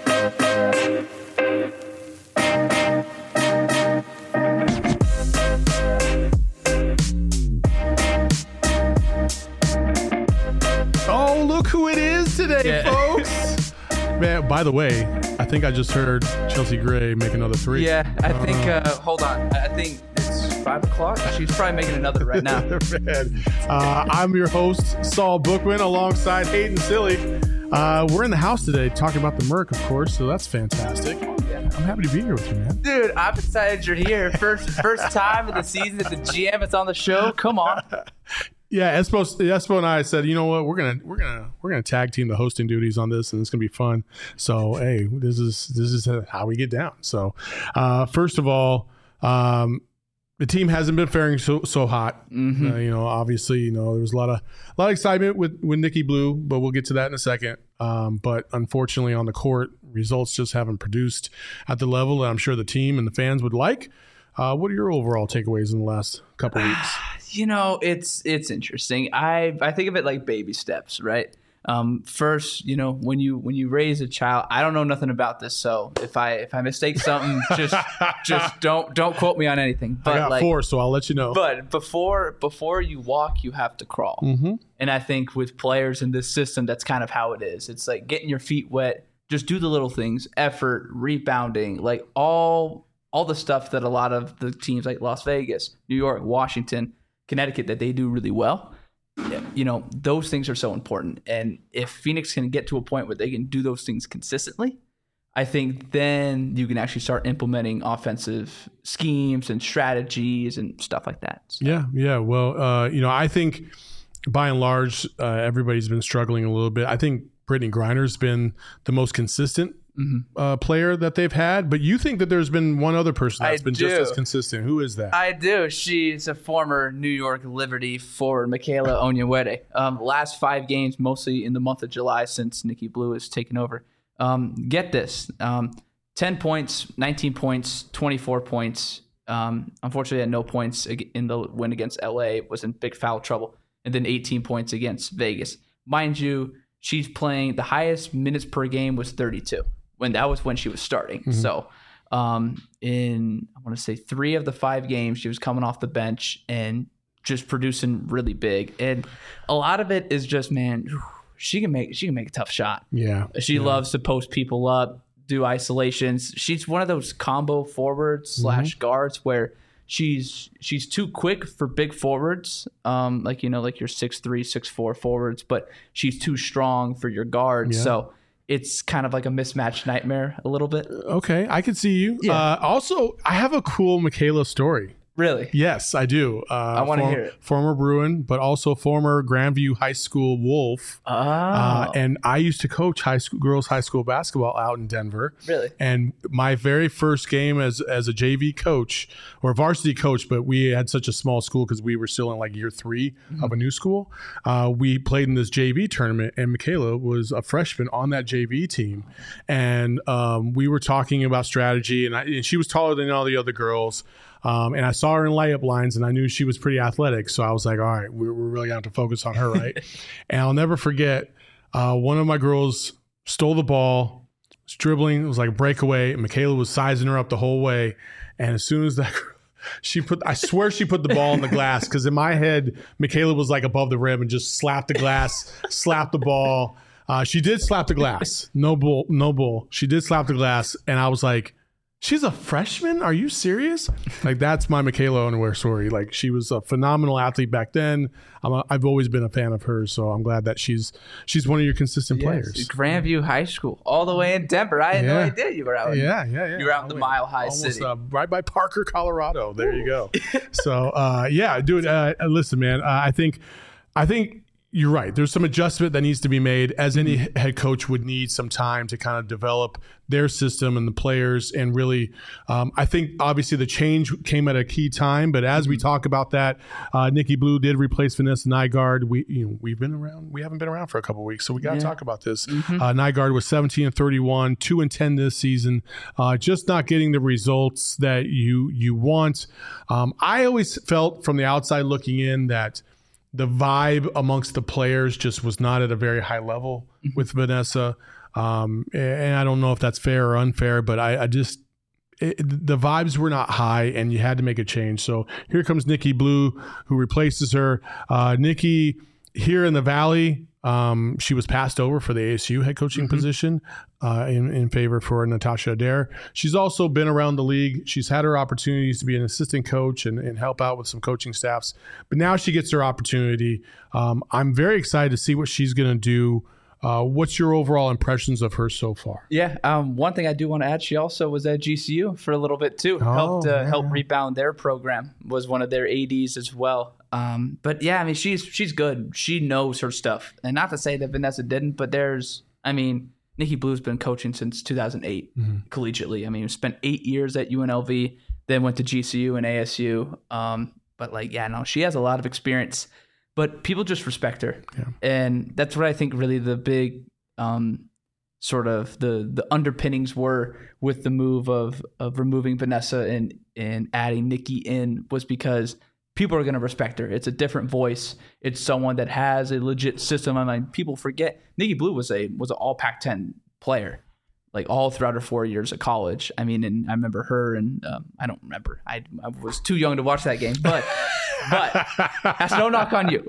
Oh, look who it is today, folks. Man, by the way, I think I just heard Chelsea Gray make another three. Yeah, I think, hold on. I think it's 5 o'clock. She's probably making another right now. Man, I'm your host, Saul Bookman, alongside Hayden Silly. We're in the house today talking about the Merc, of course, so that's fantastic. Yeah. I'm happy to be here with you, man. Dude, I'm excited you're here. First time of the season that the GM is on the show. Come on. Yeah, Espo and I said, you know what, we're gonna tag team the hosting duties on this, and it's gonna be fun. So hey, this is how we get down. So first of all, the team hasn't been faring so hot. Mm-hmm. Obviously, there was a lot of excitement with Nikki Blue, but we'll get to that in a second. But unfortunately, on the court, results just haven't produced at the level that I'm sure the team and the fans would like. What are your overall takeaways in the last couple of weeks? It's interesting. I think of it like baby steps, right? First, when you raise a child, I don't know nothing about this, so if I mistake something, just don't quote me on anything. But I got 4, so I'll let you know. But before you walk, you have to crawl. Mm-hmm. And I think with players in this system, that's kind of how it is. It's like getting your feet wet. Just do the little things: effort, rebounding, like all the stuff that a lot of the teams like Las Vegas, New York, Washington, Connecticut, that they do really well. Those things are so important. And if Phoenix can get to a point where they can do those things consistently, I think then you can actually start implementing offensive schemes and strategies and stuff like that. So. Yeah. Well, I think by and large, everybody's been struggling a little bit. I think Brittany Griner's been the most consistent player that they've had, but you think that there's been one other person that's been just as consistent. Who is that? I do. She's a former New York Liberty forward, Michaela Onyenwere. Last 5 games, mostly in the month of July since Nikki Blue has taken over. Get this. 10 points, 19 points, 24 points. Unfortunately, had no points in the win against LA, was in big foul trouble. And then 18 points against Vegas. Mind you, she's playing, the highest minutes per game was 32. That was when she was starting. Mm-hmm. So in, I want to say 3 of the 5 games, she was coming off the bench and just producing really big. And a lot of it is just, man, she can make a tough shot. Yeah. She loves to post people up, do isolations. She's one of those combo forwards / guards where she's too quick for big forwards, like your 6'3", 6'4" forwards, but she's too strong for your guards. Yeah. So it's kind of like a mismatched nightmare a little bit. Okay, I can see you. Yeah. Also, I have a cool Michaela story. Really? Yes, I do. I want to hear it. Former Bruin, but also former Grandview High School Wolf. Oh. And I used to coach girls high school basketball out in Denver. Really? And my very first game as a JV coach or varsity coach, but we had such a small school because we were still in like year 3 of a new school. We played in this JV tournament, and Michaela was a freshman on that JV team. And we were talking about strategy, and she was taller than all the other girls. And I saw her in layup lines, and I knew she was pretty athletic. So I was like, all right, we're really going to have to focus on her, right? And I'll never forget, one of my girls stole the ball, was dribbling. It was like a breakaway. And Michaela was sizing her up the whole way. And as soon as that I swear she put the ball in the glass, because in my head, Michaela was like above the rim and just slapped the glass, slapped the ball. She did slap the glass. No bull. She did slap the glass. And I was like, she's a freshman? Are you serious? Like, that's my Michaela Onyenwere story. Like, she was a phenomenal athlete back then. I've always been a fan of hers, so I'm glad that she's one of your consistent players. Grandview High School, all the way in Denver. I had no idea you were out. Yeah. You were out in the Mile High City, right by Parker, Colorado. There you go. So, dude. Listen, man. I think you're right. There's some adjustment that needs to be made, as any head coach would need some time to kind of develop their system and the players. And really, I think obviously the change came at a key time. But as we talk about that, Nikki Blue did replace Vanessa Nygaard. We've been around. We haven't been around for a couple of weeks, so we got to talk about this. Nygaard was 17-31, 2-10 this season. Just not getting the results that you want. I always felt from the outside looking in that the vibe amongst the players just was not at a very high level with Vanessa. And I don't know if that's fair or unfair, but the vibes were not high, and you had to make a change. So here comes Nikki Blue, who replaces her. Nikki, here in the Valley, she was passed over for the ASU head coaching position in favor for Natasha Adair. She's also been around the league. She's had her opportunities to be an assistant coach and help out with some coaching staffs. But now she gets her opportunity. I'm very excited to see what she's going to do. What's your overall impressions of her so far? Yeah. One thing I do want to add, she also was at GCU for a little bit too. Helped rebound their program, was one of their ADs as well. But yeah, I mean, she's good. She knows her stuff. And not to say that Vanessa didn't, but Nikki Blue's been coaching since 2008 collegiately. I mean, spent 8 years at UNLV, then went to GCU and ASU. But she has a lot of experience. But people just respect her. Yeah. And that's what I think really the big sort of the underpinnings were with the move of removing Vanessa and adding Nikki in, was because people are going to respect her. It's a different voice. It's someone that has a legit system. I mean, people forget Nikki Blue was an all Pac-10 player, like all throughout her 4 years of college. I mean, and I remember her, and I don't remember. I was too young to watch that game, but that's no knock on you.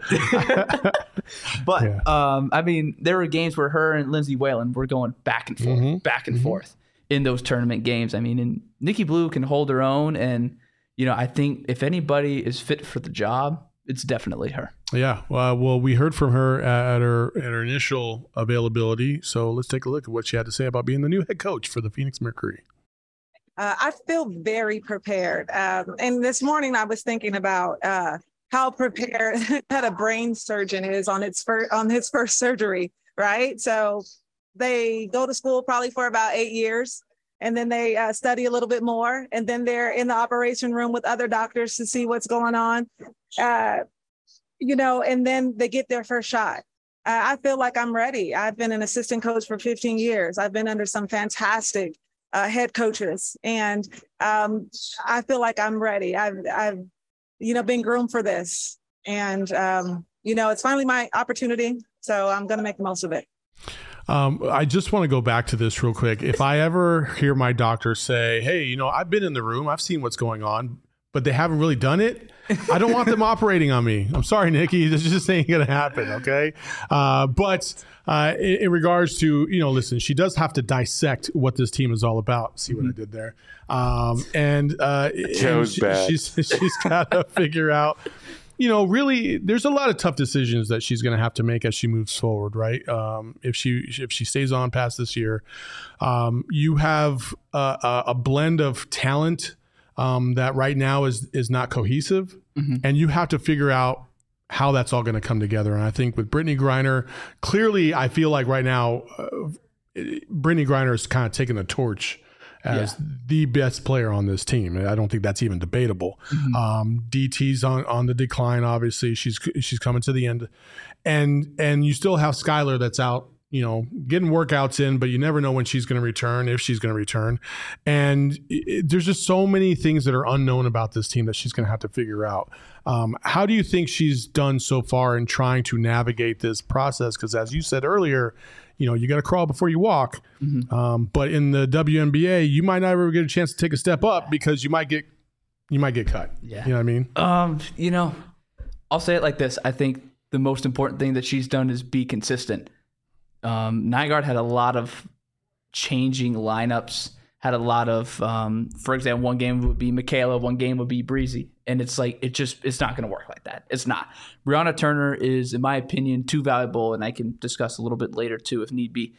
But yeah. I mean, there were games where her and Lindsay Whalen were going back and forth, forth in those tournament games. I mean, and Nikki Blue can hold her own, and I think if anybody is fit for the job, it's definitely her. Yeah. Well, we heard from her at her initial availability. So let's take a look at what she had to say about being the new head coach for the Phoenix Mercury. I feel very prepared. And this morning I was thinking about how prepared that a brain surgeon is on his first surgery, right? So they go to school probably for about 8 years, and then they study a little bit more, and then they're in the operation room with other doctors to see what's going on, and then they get their first shot. I feel like I'm ready. I've been an assistant coach for 15 years. I've been under some fantastic head coaches, and I feel like I'm ready. I've been groomed for this, and it's finally my opportunity, so I'm going to make the most of it. I just want to go back to this real quick. If I ever hear my doctor say, hey, I've been in the room, I've seen what's going on, but they haven't really done it, I don't want them operating on me. I'm sorry, Nikki. This just ain't going to happen, okay? But in regards to, listen, she does have to dissect what this team is all about. See what I did there? She's got to figure out, really, there's a lot of tough decisions that she's going to have to make as she moves forward, right? If she stays on past this year, you have a blend of talent that right now is not cohesive, and you have to figure out how that's all going to come together. And I think with Brittney Griner, clearly, I feel like right now, Brittney Griner is kind of taking the torch as the best player on this team. I don't think that's even debatable. DT's on the decline. Obviously, she's coming to the end, and you still have Skylar that's out, getting workouts in, but you never know when she's going to return, if she's going to return. And there's just so many things that are unknown about this team that she's going to have to figure out. How do you think she's done so far in trying to navigate this process? Because as you said earlier, you got to crawl before you walk. But in the WNBA, you might not ever get a chance to take a step up because you might get cut. Yeah. You know what I mean? I'll say it like this. I think the most important thing that she's done is be consistent. Nygaard had a lot of changing lineups, had a lot of, for example, one game would be Michaela, one game would be Breezy. And it's like, it's not going to work like that. It's not. Brianna Turner is, in my opinion, too valuable, and I can discuss a little bit later too if need be.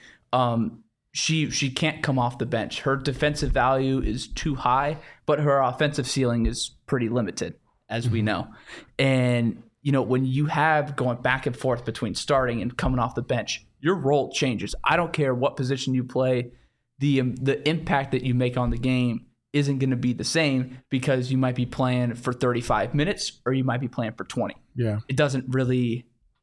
She can't come off the bench. Her defensive value is too high, but her offensive ceiling is pretty limited, as we know. And, when you have going back and forth between starting and coming off the bench, your role changes. I don't care what position you play. The impact that you make on the game isn't going to be the same because you might be playing for 35 minutes or you might be playing for 20. Yeah. It doesn't really,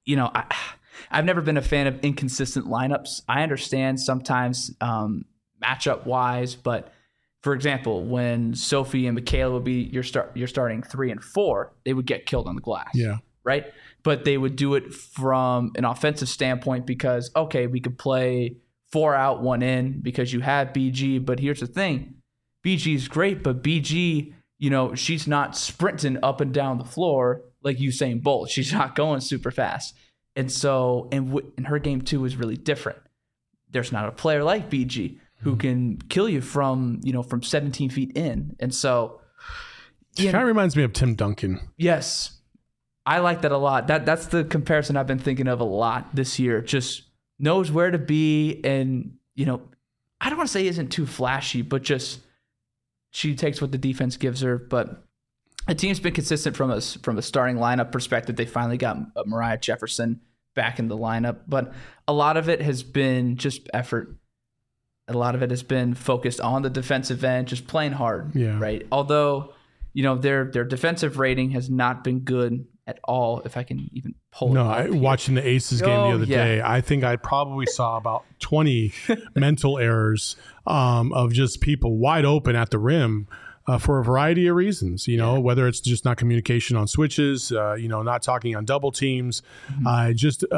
I've never been a fan of inconsistent lineups. I understand sometimes matchup wise, but for example, when Sophie and Michaela would be you're starting 3 and 4, they would get killed on the glass. Yeah. Right? But they would do it from an offensive standpoint because, okay, we could play 4 out, 1 in because you have BG. But here's the thing. BG is great, but BG, she's not sprinting up and down the floor like Usain Bolt. She's not going super fast. And so, and her game too is really different. There's not a player like BG who can kill you from 17 feet in. And so, it kind of reminds me of Tim Duncan. Yes. I like that a lot. That's the comparison I've been thinking of a lot this year. Just knows where to be, and I don't want to say isn't too flashy, but just she takes what the defense gives her. But the team's been consistent from a starting lineup perspective. They finally got Mariah Jefferson back in the lineup, but a lot of it has been just effort. A lot of it has been focused on the defensive end, just playing hard. Yeah. Right. Although their defensive rating has not been good at all, if I can even pull it up. No, watching the Aces game the other day, I think I probably saw about 20 mental errors of just people wide open at the rim for a variety of reasons, whether it's just not communication on switches, not talking on double teams, and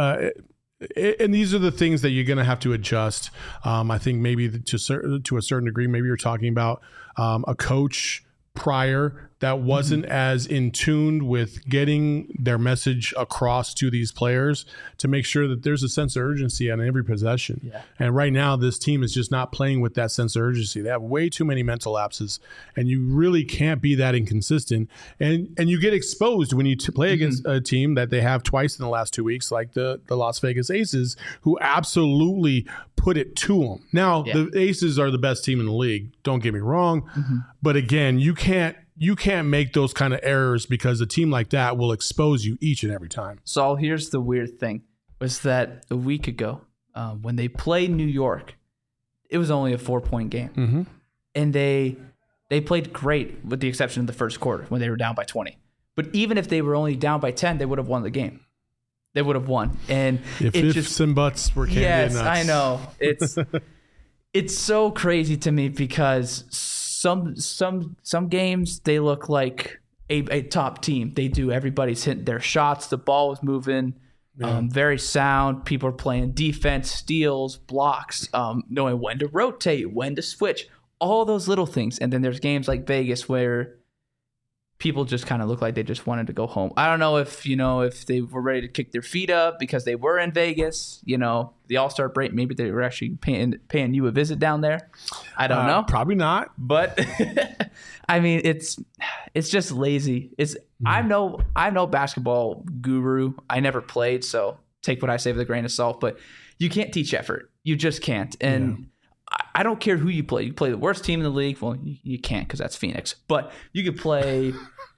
these are the things that you're going to have to adjust. I think maybe to a certain degree, maybe you're talking about a coach prior that wasn't as in tune with getting their message across to these players to make sure that there's a sense of urgency on every possession. Yeah. And right now, this team is just not playing with that sense of urgency. They have way too many mental lapses, and you really can't be that inconsistent. And you get exposed when you play against a team that they have twice in the last 2 weeks, like the Las Vegas Aces, who absolutely put it to them. Now, the Aces are the best team in the league. Don't get me wrong. But again, you can't make those kind of errors because a team like that will expose you each and every time. So here's the weird thing, was that a week ago when they played New York, it was only a 4-point game. And they played great with the exception of the first quarter when they were down by 20. But even if they were only down by 10, they would have won the game. They would have won. And if ifs and buts were candy and nuts. Yes, I know. It's so crazy to me because some games they look like a top team. They do. Everybody's hitting their shots. The ball is moving, very sound. People are playing defense, steals, blocks, knowing when to rotate, when to switch, all those little things. And then there's games like Vegas where people just kind of look like they just wanted to go home. I don't know if they were ready to kick their feet up because they were in Vegas, the All-Star break. Maybe they were actually paying you a visit down there. I don't know. Probably not. But I mean, it's just lazy. I'm no basketball guru. I never played, so take what I say with a grain of salt. But you can't teach effort. You just can't. And I don't care who you play. You play the worst team in the league. Well, you can't because that's Phoenix. But you could play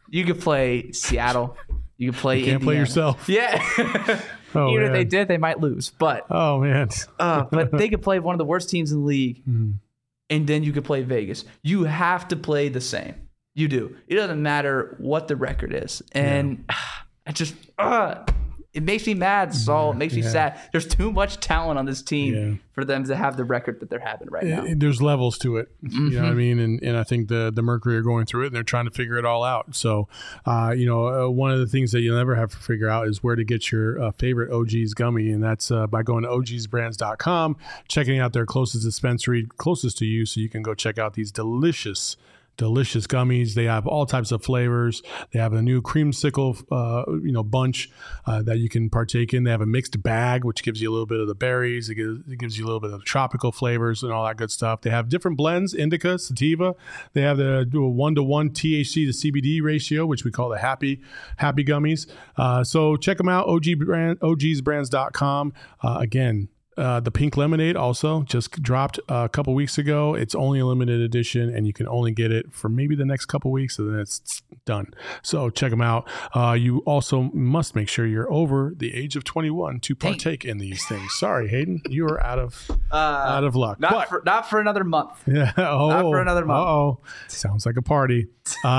Seattle. You could play. You can't Indiana. play yourself. Yeah. Even if they did, they might lose. But but they could play one of the worst teams in the league, and then you could play Vegas. You have to play the same. You do. It doesn't matter what the record is, and I just. It makes me mad, Saul. It makes me sad. There's too much talent on this team for them to have the record that they're having right now. There's levels to it. You know what I mean? And I think the Mercury are going through it, and they're trying to figure it all out. So, one of the things that you'll never have to figure out is where to get your favorite OG's gummy, and that's by going to ogsbrands.com, checking out their closest dispensary closest to you so you can go check out these delicious gummies. They have all types of flavors. They have a new creamsicle, bunch that you can partake in. They have a mixed bag, which gives you a little bit of the berries. It gives you a little bit of tropical flavors and all that good stuff. They have different blends, indica, sativa. They have the 1-to-1 THC to CBD ratio, which we call the happy gummies. So check them out, ogsbrands.com. Again, the pink lemonade also just dropped a couple weeks ago. It's only a limited edition, and you can only get it for maybe the next couple weeks, and then it's done. So check them out. You also must make sure you're over the age of 21 to partake in these things. Sorry, Hayden, you are out of luck. Not for another month. Yeah. Not for another month. Sounds like a party.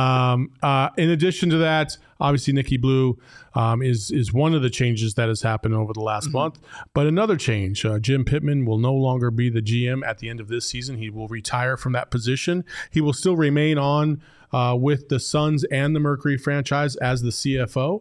In addition to that, obviously Nikki Blue is one of the changes that has happened over the last month. But another change, Jim Pittman will no longer be the GM at the end of this season. He will retire from that position. He will still remain on with the Suns and the Mercury franchise as the CFO.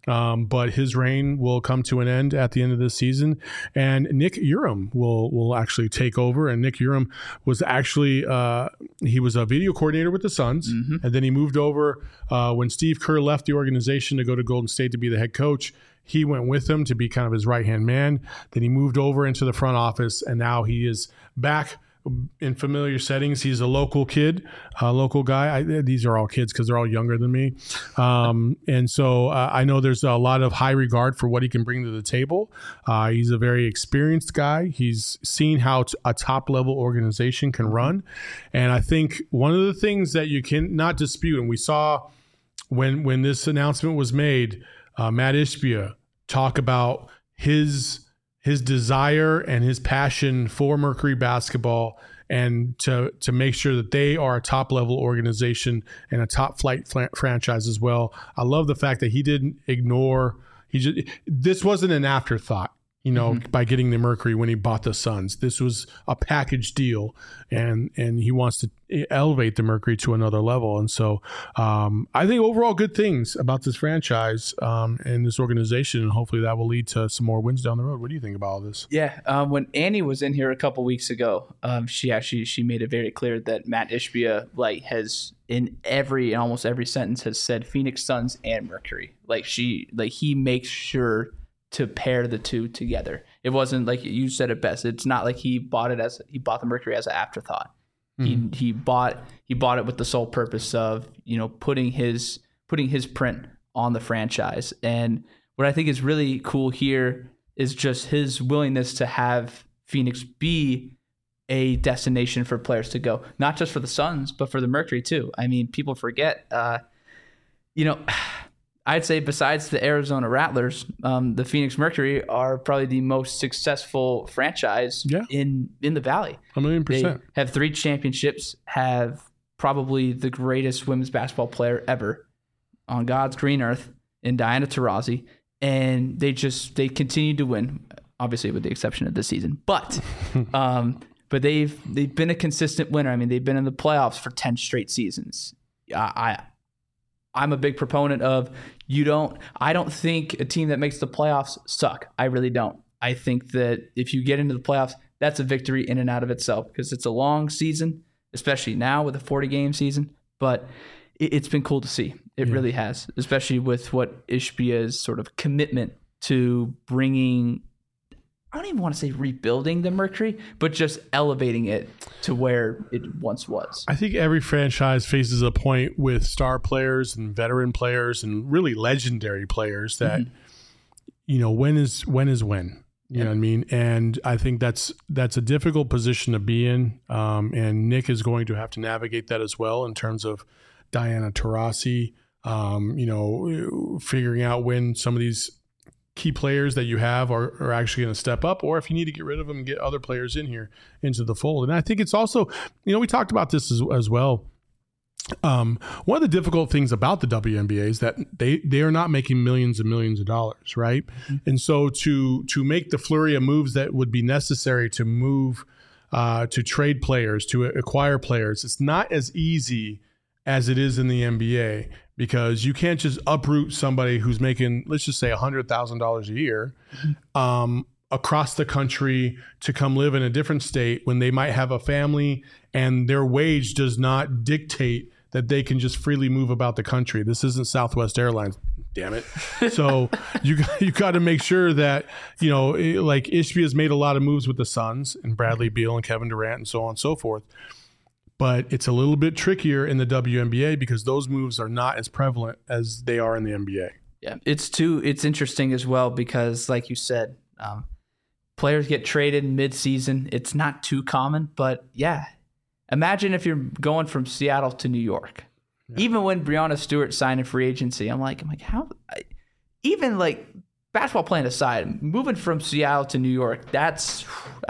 but his reign will come to an end at the end of this season, and Nick Urim will actually take over. And Nick Urim was actually he was a video coordinator with the Suns, and then he moved over when Steve Kerr left the organization to go to Golden State to be the head coach. He went with him to be kind of his right-hand man. Then he moved over into the front office, and now he is back in familiar settings. He's a local kid, a local guy. These are all kids because they're all younger than me. And so I know there's a lot of high regard for what he can bring to the table. He's a very experienced guy. He's seen how a top-level organization can run. And I think one of the things that you cannot dispute, and we saw when this announcement was made, Matt Ishbia talk about his desire and his passion for Mercury basketball, and to make sure that they are a top level organization and a top flight franchise as well. I love the fact that he didn't ignore. This wasn't an afterthought. By getting the Mercury when he bought the Suns. This was a package deal, and he wants to elevate the Mercury to another level. And so I think overall good things about this franchise and this organization, and hopefully that will lead to some more wins down the road. What do you think about all this? Yeah, when Annie was in here a couple weeks ago, she made it very clear that Matt Ishbia has in almost every sentence has said Phoenix Suns and Mercury. He makes sure to pair the two together. It wasn't like you said it best. It's not like he bought the Mercury as an afterthought. He bought it with the sole purpose of putting his print on the franchise. And what I think is really cool here is just his willingness to have Phoenix be a destination for players to go, not just for the Suns, but for the Mercury too. I mean, people forget, I'd say besides the Arizona Rattlers, the Phoenix Mercury are probably the most successful franchise in the Valley. 1,000,000%. They have 3 championships, have probably the greatest women's basketball player ever on God's green earth in Diana Taurasi, and they continue to win, obviously with the exception of this season. But they've been a consistent winner. I mean, they've been in the playoffs for 10 straight seasons. I'm a big proponent of I don't think a team that makes the playoffs suck. I really don't. I think that if you get into the playoffs, that's a victory in and out of itself because it's a long season, especially now with a 40-game season. But it's been cool to see. It really has, especially with what Ishbia's sort of commitment to bringing, I don't even want to say rebuilding the Mercury, but just elevating it to where it once was. I think every franchise faces a point with star players and veteran players and really legendary players that, when is when? You know what I mean? And I think that's a difficult position to be in. And Nick is going to have to navigate that as well in terms of Diana Taurasi, figuring out when some of these key players that you have are actually going to step up, or if you need to get rid of them and get other players in here into the fold. And I think it's also, we talked about this as well. One of the difficult things about the WNBA is that they are not making millions and millions of dollars, right? And so to make the flurry of moves that would be necessary to move, to trade players, to acquire players, it's not as easy as it is in the NBA, because you can't just uproot somebody who's making, let's just say $100,000 a year across the country to come live in a different state when they might have a family and their wage does not dictate that they can just freely move about the country. This isn't Southwest Airlines, damn it. So you got to make sure that, like Ishbia has made a lot of moves with the Suns and Bradley Beal and Kevin Durant and so on and so forth. But it's a little bit trickier in the WNBA because those moves are not as prevalent as they are in the NBA. Yeah, it's interesting as well because, like you said, players get traded mid-season. It's not too common, but imagine if you're going from Seattle to New York. Yeah. Even when Breanna Stewart signed in free agency, I'm like, how? Even like basketball playing aside, moving from Seattle to New York, that's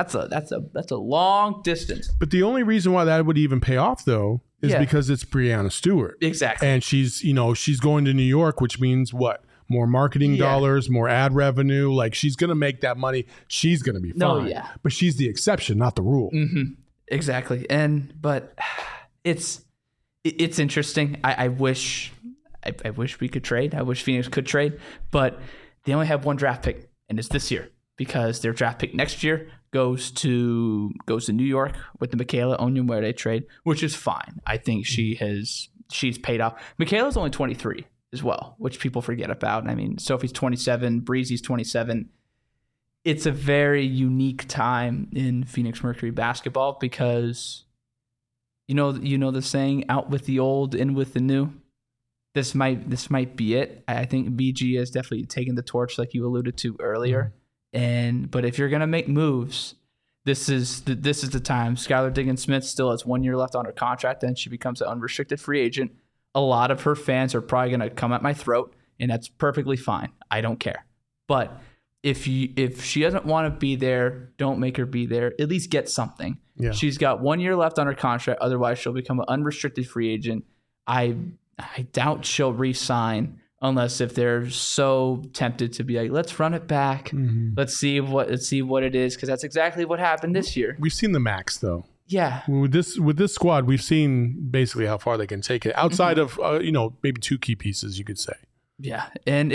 a long distance. But the only reason why that would even pay off, though, is because it's Breanna Stewart. Exactly. And she's going to New York, which means what? More marketing dollars, more ad revenue. Like, she's going to make that money. She's going to be fine. But she's the exception, not the rule. Mm-hmm. Exactly. But it's interesting. I wish I wish we could trade. I wish Phoenix could trade, but they only have one draft pick, and it's this year because their draft pick next year goes to New York with the Michaela Onyenwere trade, which is fine. I think she's paid off. Michaela's only 23 as well, which people forget about. I mean, Sophie's 27, Breezy's 27. It's a very unique time in Phoenix Mercury basketball because you know the saying, out with the old, in with the new. This might be it. I think BG has definitely taken the torch, like you alluded to earlier. But if you're gonna make moves, this is the time. Skylar Diggins-Smith still has 1 year left on her contract, then she becomes an unrestricted free agent. A lot of her fans are probably gonna come at my throat, and that's perfectly fine. I don't care. But if she doesn't want to be there, don't make her be there. At least get something. Yeah. She's got 1 year left on her contract. Otherwise, she'll become an unrestricted free agent. I doubt she'll re-sign unless if they're so tempted to be like, let's run it back. Let's see what it is, because that's exactly what happened this year. We've seen the max though. Yeah. With this squad, we've seen basically how far they can take it outside of maybe two key pieces, you could say. Yeah, and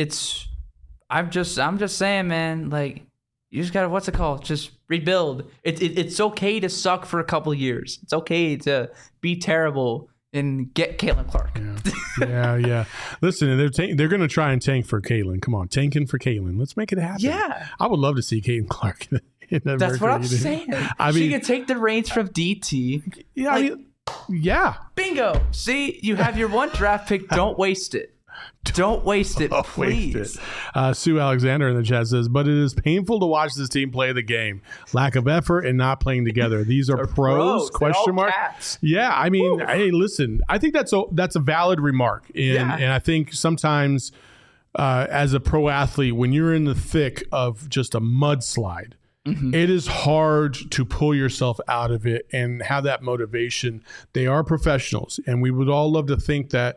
I'm just saying, man, like, you just gotta, just rebuild. It's okay to suck for a couple of years. It's okay to be terrible and get Caitlin Clark. Yeah. Listen, they're going to try and tank for Caitlin. Come on, tanking for Caitlin. Let's make it happen. Yeah. I would love to see Caitlin Clark in that. That's what I'm saying. She can take the reins from DT. Yeah. Yeah. Bingo. See, you have your one draft pick. Don't waste it. Don't waste it, please. Sue Alexander in the chat says, but it is painful to watch this team play the game. Lack of effort and not playing together. These are pros? Question mark. Cats. Yeah, I mean, hey, listen. I think that's a valid remark, and I think sometimes as a pro athlete, when you're in the thick of just a mudslide, it is hard to pull yourself out of it and have that motivation. They are professionals, and we would all love to think that.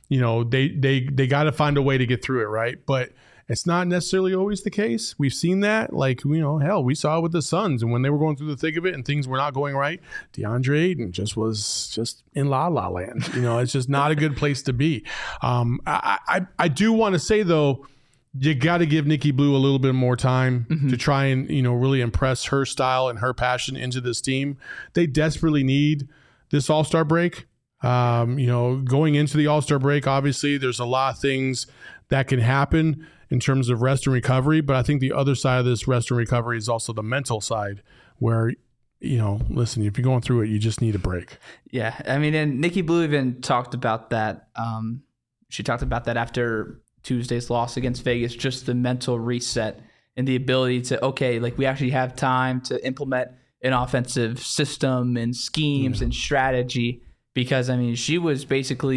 They got to find a way to get through it, right? But it's not necessarily always the case. We've seen that, hell, we saw it with the Suns, and when they were going through the thick of it and things were not going right, DeAndre Ayton was just in la la land. It's just not a good place to be. I do want to say though, you got to give Nikki Blue a little bit more time to try and really impress her style and her passion into this team. They desperately need this All-Star break. Going into the All-Star break, obviously there's a lot of things that can happen in terms of rest and recovery, but I think the other side of this rest and recovery is also the mental side where, listen, if you're going through it, you just need a break. Yeah. I mean, and Nikki Blue even talked about that. She talked about that after Tuesday's loss against Vegas, just the mental reset and the ability to, we actually have time to implement an offensive system and schemes and strategy. Because, I mean, she was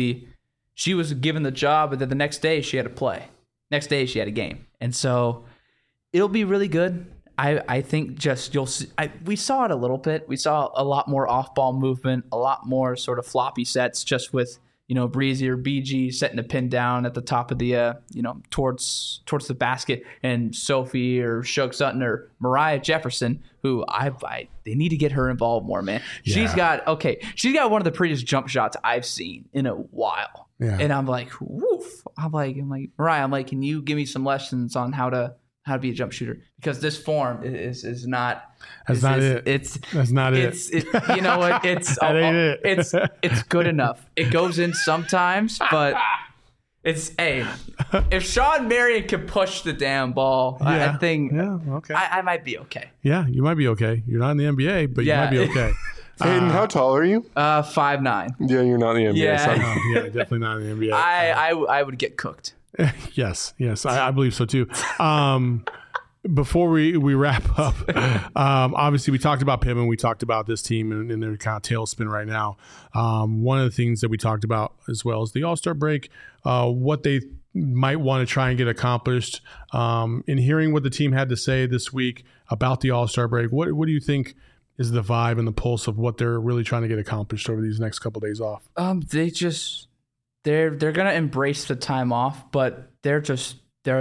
given the job, but then the next day she had to play. Next day she had a game. And so it'll be really good. I think you'll see. We saw it a little bit. We saw a lot more off-ball movement, a lot more sort of floppy sets just with, Breezy or BG setting a pin down at the top of the, towards the basket, and Sophie or Shug Sutton or Mariah Jefferson, who they need to get her involved more, man. Yeah. She's got one of the prettiest jump shots I've seen in a while. Yeah. And I'm like, woof. I'm like, Mariah, can you give me some lessons on how to be a jump shooter? Because this form is not. That's not it. That's not it. You know what? It's good enough. It goes in sometimes, but if Sean Marion can push the damn ball, I think I might be okay. Yeah, you might be okay. You're not in the NBA, but you might be okay. Hayden, how tall are you? 5'9". Yeah, you're not in the NBA. Yeah, definitely not in the NBA. I would get cooked. Yes, I believe so too. Before we wrap up, obviously we talked about Pittman, we talked about this team and their kind of tailspin right now. One of the things that we talked about as well is the All-Star break, what they might want to try and get accomplished. In hearing what the team had to say this week about the All-Star break, what do you think is the vibe and the pulse of what they're really trying to get accomplished over these next couple of days off? They're gonna embrace the time off, but they're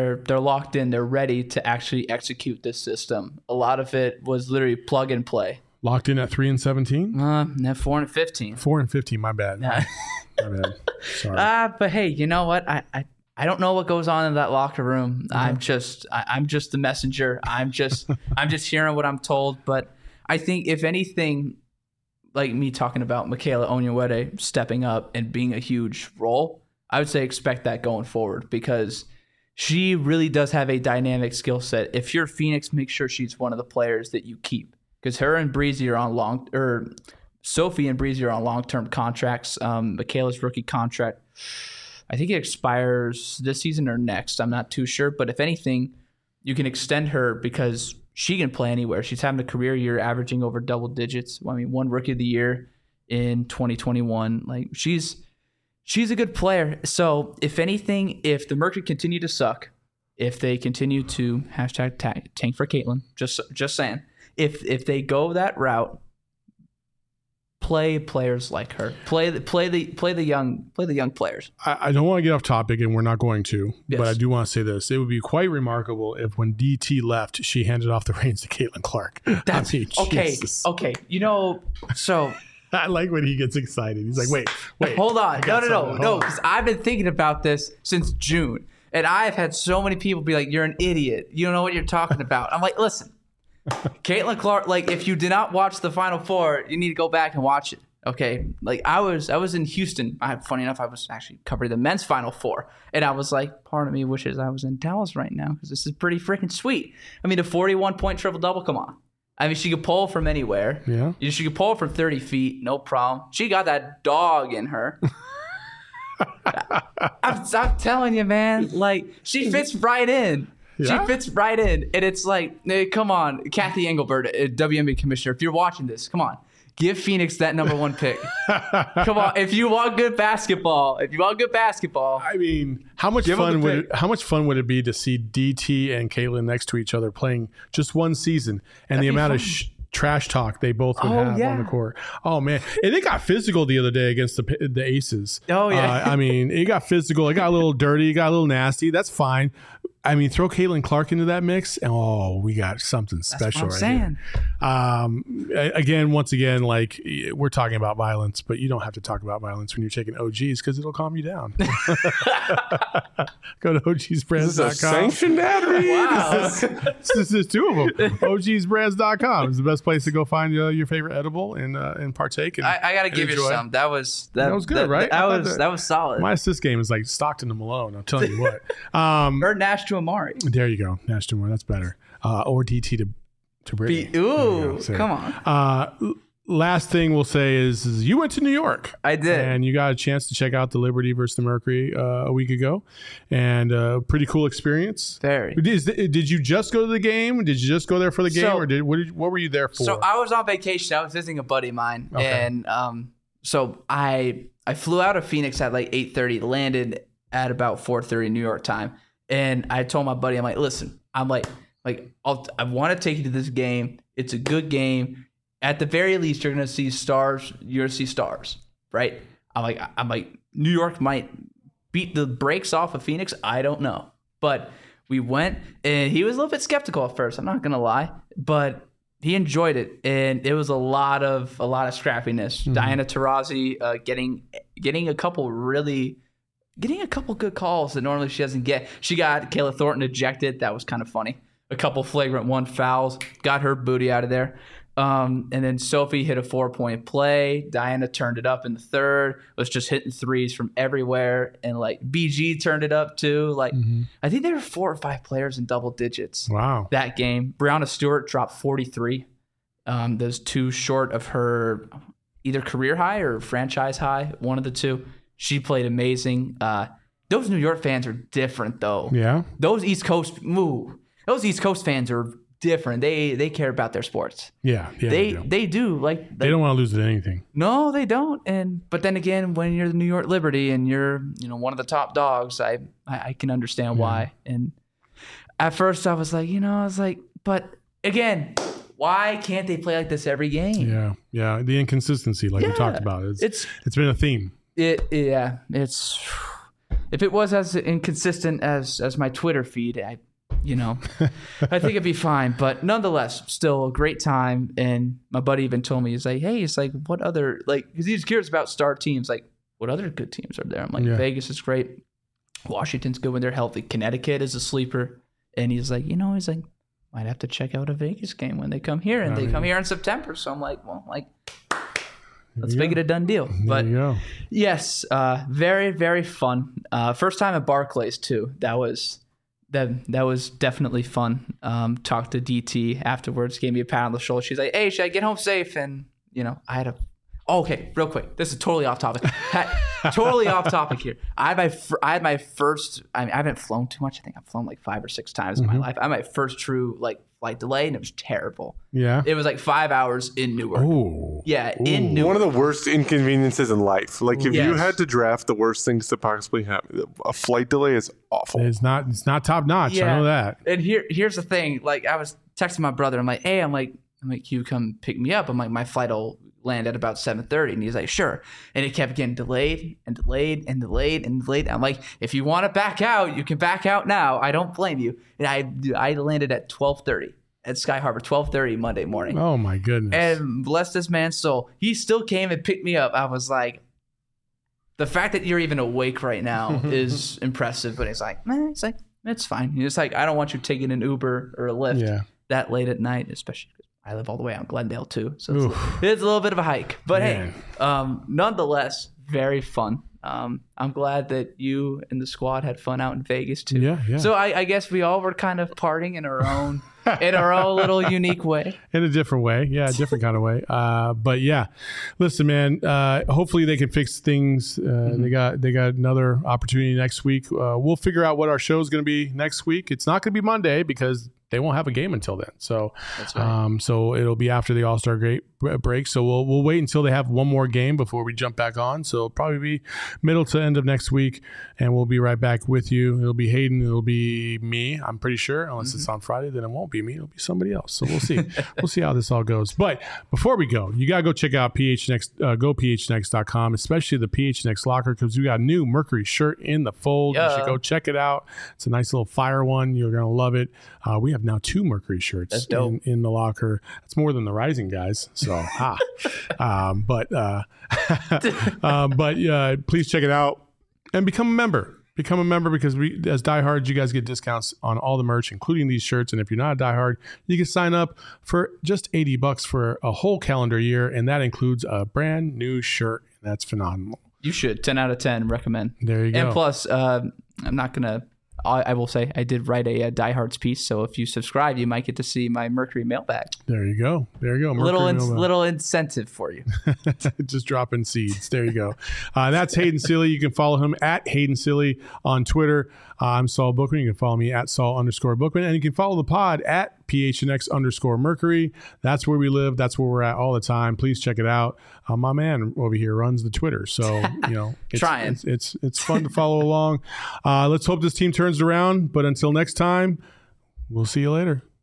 locked in. They're ready to actually execute this system. A lot of it was literally plug and play. Locked in at 3-17. No, 4-15. 4-15. My bad. Yeah. My bad. Sorry. But hey, you know what? I don't know what goes on in that locker room. I'm just the messenger. I'm just hearing what I'm told. But I think if anything, like me talking about Michaela Onyenwere stepping up and being a huge role, I would say expect that going forward because she really does have a dynamic skill set. If you're Phoenix, make sure she's one of the players that you keep because her and Breezy are on Sophie and Breezy are on long-term contracts. Michaela's rookie contract, I think it expires this season or next. I'm not too sure. But if anything, you can extend her because she can play anywhere. She's having a career year averaging over double digits. I mean, one rookie of the year in 2021. Like she's a good player. So if anything, if the Mercury continue to suck, if they continue to #tank for Caitlin, just saying, if they go that route, play players like her. Play the young players. I don't want to get off topic, and we're not going to. Yes. But I do want to say this: it would be quite remarkable if, when DT left, she handed off the reins to Caitlin Clark. That's okay. Jesus. Okay, so I like when he gets excited. He's like, "Wait, hold on, no, Hold because I've been thinking about this since June, and I've had so many people be like, "You're an idiot. You don't know what you're talking about." I'm like, listen. Caitlin Clark, like if you did not watch the Final Four, you need to go back and watch it. Okay, like I was in Houston. Funny enough, I was actually covering the men's Final Four, and I was like, part of me wishes I was in Dallas right now because this is pretty freaking sweet. I mean, a 41-point triple double. Come on. I mean, she could pull from anywhere. Yeah, she could pull from 30 feet, no problem. She got that dog in her. I'm telling you, man. Like she fits right in. Yeah? She fits right in. And it's like, come on, Kathy Engelbert, WNBA commissioner, if you're watching this, come on. Give Phoenix that number one pick. Come on. If you want good basketball. I mean, how much fun would it be to see DT and Caitlin next to each other playing just one season and the amount of trash talk they both would have on the court. Oh man, and it got physical the other day against the Aces. Oh yeah, I mean, it got physical. It got a little dirty. It got a little nasty. That's fine. I mean, throw Caitlin Clark into that mix, and we got something special right here. Once again, like we're talking about violence, but you don't have to talk about violence when you're taking OGs because it'll calm you down. Go to ogsbrands.com. Is this a sanctioned ad read? Wow. This is two of them. ogsbrands.com is the best place to go find your favorite edible and partake. And I got to give you some. That was good, right? That was solid. My assist game is like Stockton to Malone. I'm telling you what. Or Nash to Amari. There you go. Nash to Amari. That's better. Or DT to Brittany. Come on. Last thing we'll say is you went to New York. I did. And you got a chance to check out the Liberty versus the Mercury a week ago. And pretty cool experience. Very. Did you just go to the game? Did you just go there for the game? Or what were you there for? So I was on vacation. I was visiting a buddy of mine. Okay. And so I flew out of Phoenix at like 8:30, landed at about 4:30 New York time. And I told my buddy, I'm like, listen, I want to take you to this game. It's a good game. At the very least, you're gonna see stars. You're gonna see stars, right? I'm like, New York might beat the brakes off of Phoenix. I don't know, but we went, and he was a little bit skeptical at first. I'm not gonna lie, but he enjoyed it, and it was a lot of scrappiness. Mm-hmm. Diana Taurasi getting a couple good calls that normally she doesn't get. She got Kayla Thornton ejected. That was kind of funny. A couple flagrant 1 fouls. Got her booty out of there. And then Sophie hit a 4-point play. Diana turned it up in the third. Was just hitting threes from everywhere. And like BG turned it up too. Like I think there were 4 or 5 players in double digits. Wow. That game. Brianna Stewart dropped 43. Those 2 short of her either career high or franchise high. One of the 2. She played amazing. Those New York fans are different, though. Yeah. Those East Coast fans are different. They care about their sports. Yeah. They do. Like they don't want to lose at anything. No, they don't. But then again, when you're the New York Liberty and you're one of the top dogs, I can understand why. And at first I was like, but again, why can't they play like this every game? Yeah. The inconsistency, like we talked about, it's been a theme. It's if it was as inconsistent as my Twitter feed, I think it'd be fine. But nonetheless, still a great time. And my buddy even told me, he's like, hey, it's like, what other, like, because he's curious about star teams. Like, what other good teams are there? I'm like, Vegas is great. Washington's good when they're healthy. Connecticut is a sleeper. And he's like, might have to check out a Vegas game when they come here. And they come here in September. So I'm like, let's make it a done deal. But yes, very, very fun. First time at Barclays too. That was definitely fun. Talked to DT afterwards, gave me a pat on the shoulder. She's like, hey, should I get home safe? And I had okay, real quick. This is totally off topic. Totally off topic here. I had my first. I haven't flown too much. I think I've flown like 5 or 6 times in my life. I had my first true flight delay, and it was terrible. Yeah, it was like 5 hours in Newark. Ooh. Yeah, in Newark. One of the worst inconveniences in life. Like if you had to draft the worst things to possibly happen, a flight delay is awful. It's not top notch. Yeah. I know that. And here's the thing. Like I was texting my brother. I'm like, hey, I'm like, you come pick me up. I'm like, my flight will land at about 7:30, and he's like, sure. And it kept getting delayed and delayed and delayed and delayed. I'm like, if you want to back out, you can back out now. I don't blame you. And I landed at 12:30 at Sky Harbor, 12:30 Monday morning. Oh my goodness! And bless this man's soul, he still came and picked me up. I was like, the fact that you're even awake right now is impressive. But he's like, it's fine. He's like, I don't want you taking an Uber or a Lyft that late at night, especially. I live all the way out in Glendale too, so it's a little bit of a hike. But hey, nonetheless, very fun. I'm glad that you and the squad had fun out in Vegas too. Yeah. So I guess we all were kind of partying in our own little unique way. In a different way, a different kind of way. But yeah, listen, man. Hopefully they can fix things. They got another opportunity next week. We'll figure out what our show is going to be next week. It's not going to be Monday because they won't have a game until then. So, that's right. So it'll be after the All-Star break. So we'll wait until they have one more game before we jump back on. So it'll probably be middle to end of next week, and we'll be right back with you. It'll be Hayden. It'll be me. I'm pretty sure, unless it's on Friday, then it won't be me. It'll be somebody else. So we'll see. We'll see how this all goes. But before we go, you gotta go check out PHNX. Go PHNX.com, especially the PHNX locker, because we got a new Mercury shirt in the fold. You should go check it out. It's a nice little fire one. You're gonna love it. We have now 2 Mercury shirts in the locker. That's more than the Rising guys. So, please check it out and become a member. Become a member because we, as diehards, you guys get discounts on all the merch, including these shirts. And if you're not a diehard, you can sign up for just $80 for a whole calendar year, and that includes a brand new shirt. And that's phenomenal. You should. 10 out of 10. Recommend. There you go. And plus, I'm not gonna. I will say I did write a diehards piece, so if you subscribe, you might get to see my Mercury mailbag. There you go. Little incentive for you. Just dropping seeds. There you go. That's Hayden Sealy. You can follow him at Hayden Sealy on Twitter. I'm Saul Bookman. You can follow me at Saul_Bookman, and you can follow the pod at PHNX_Mercury. That's where we live. That's where we're at all the time. Please check it out. My man over here runs the Twitter, so it's fun to follow along. Let's hope this team turns around. But until next time, we'll see you later.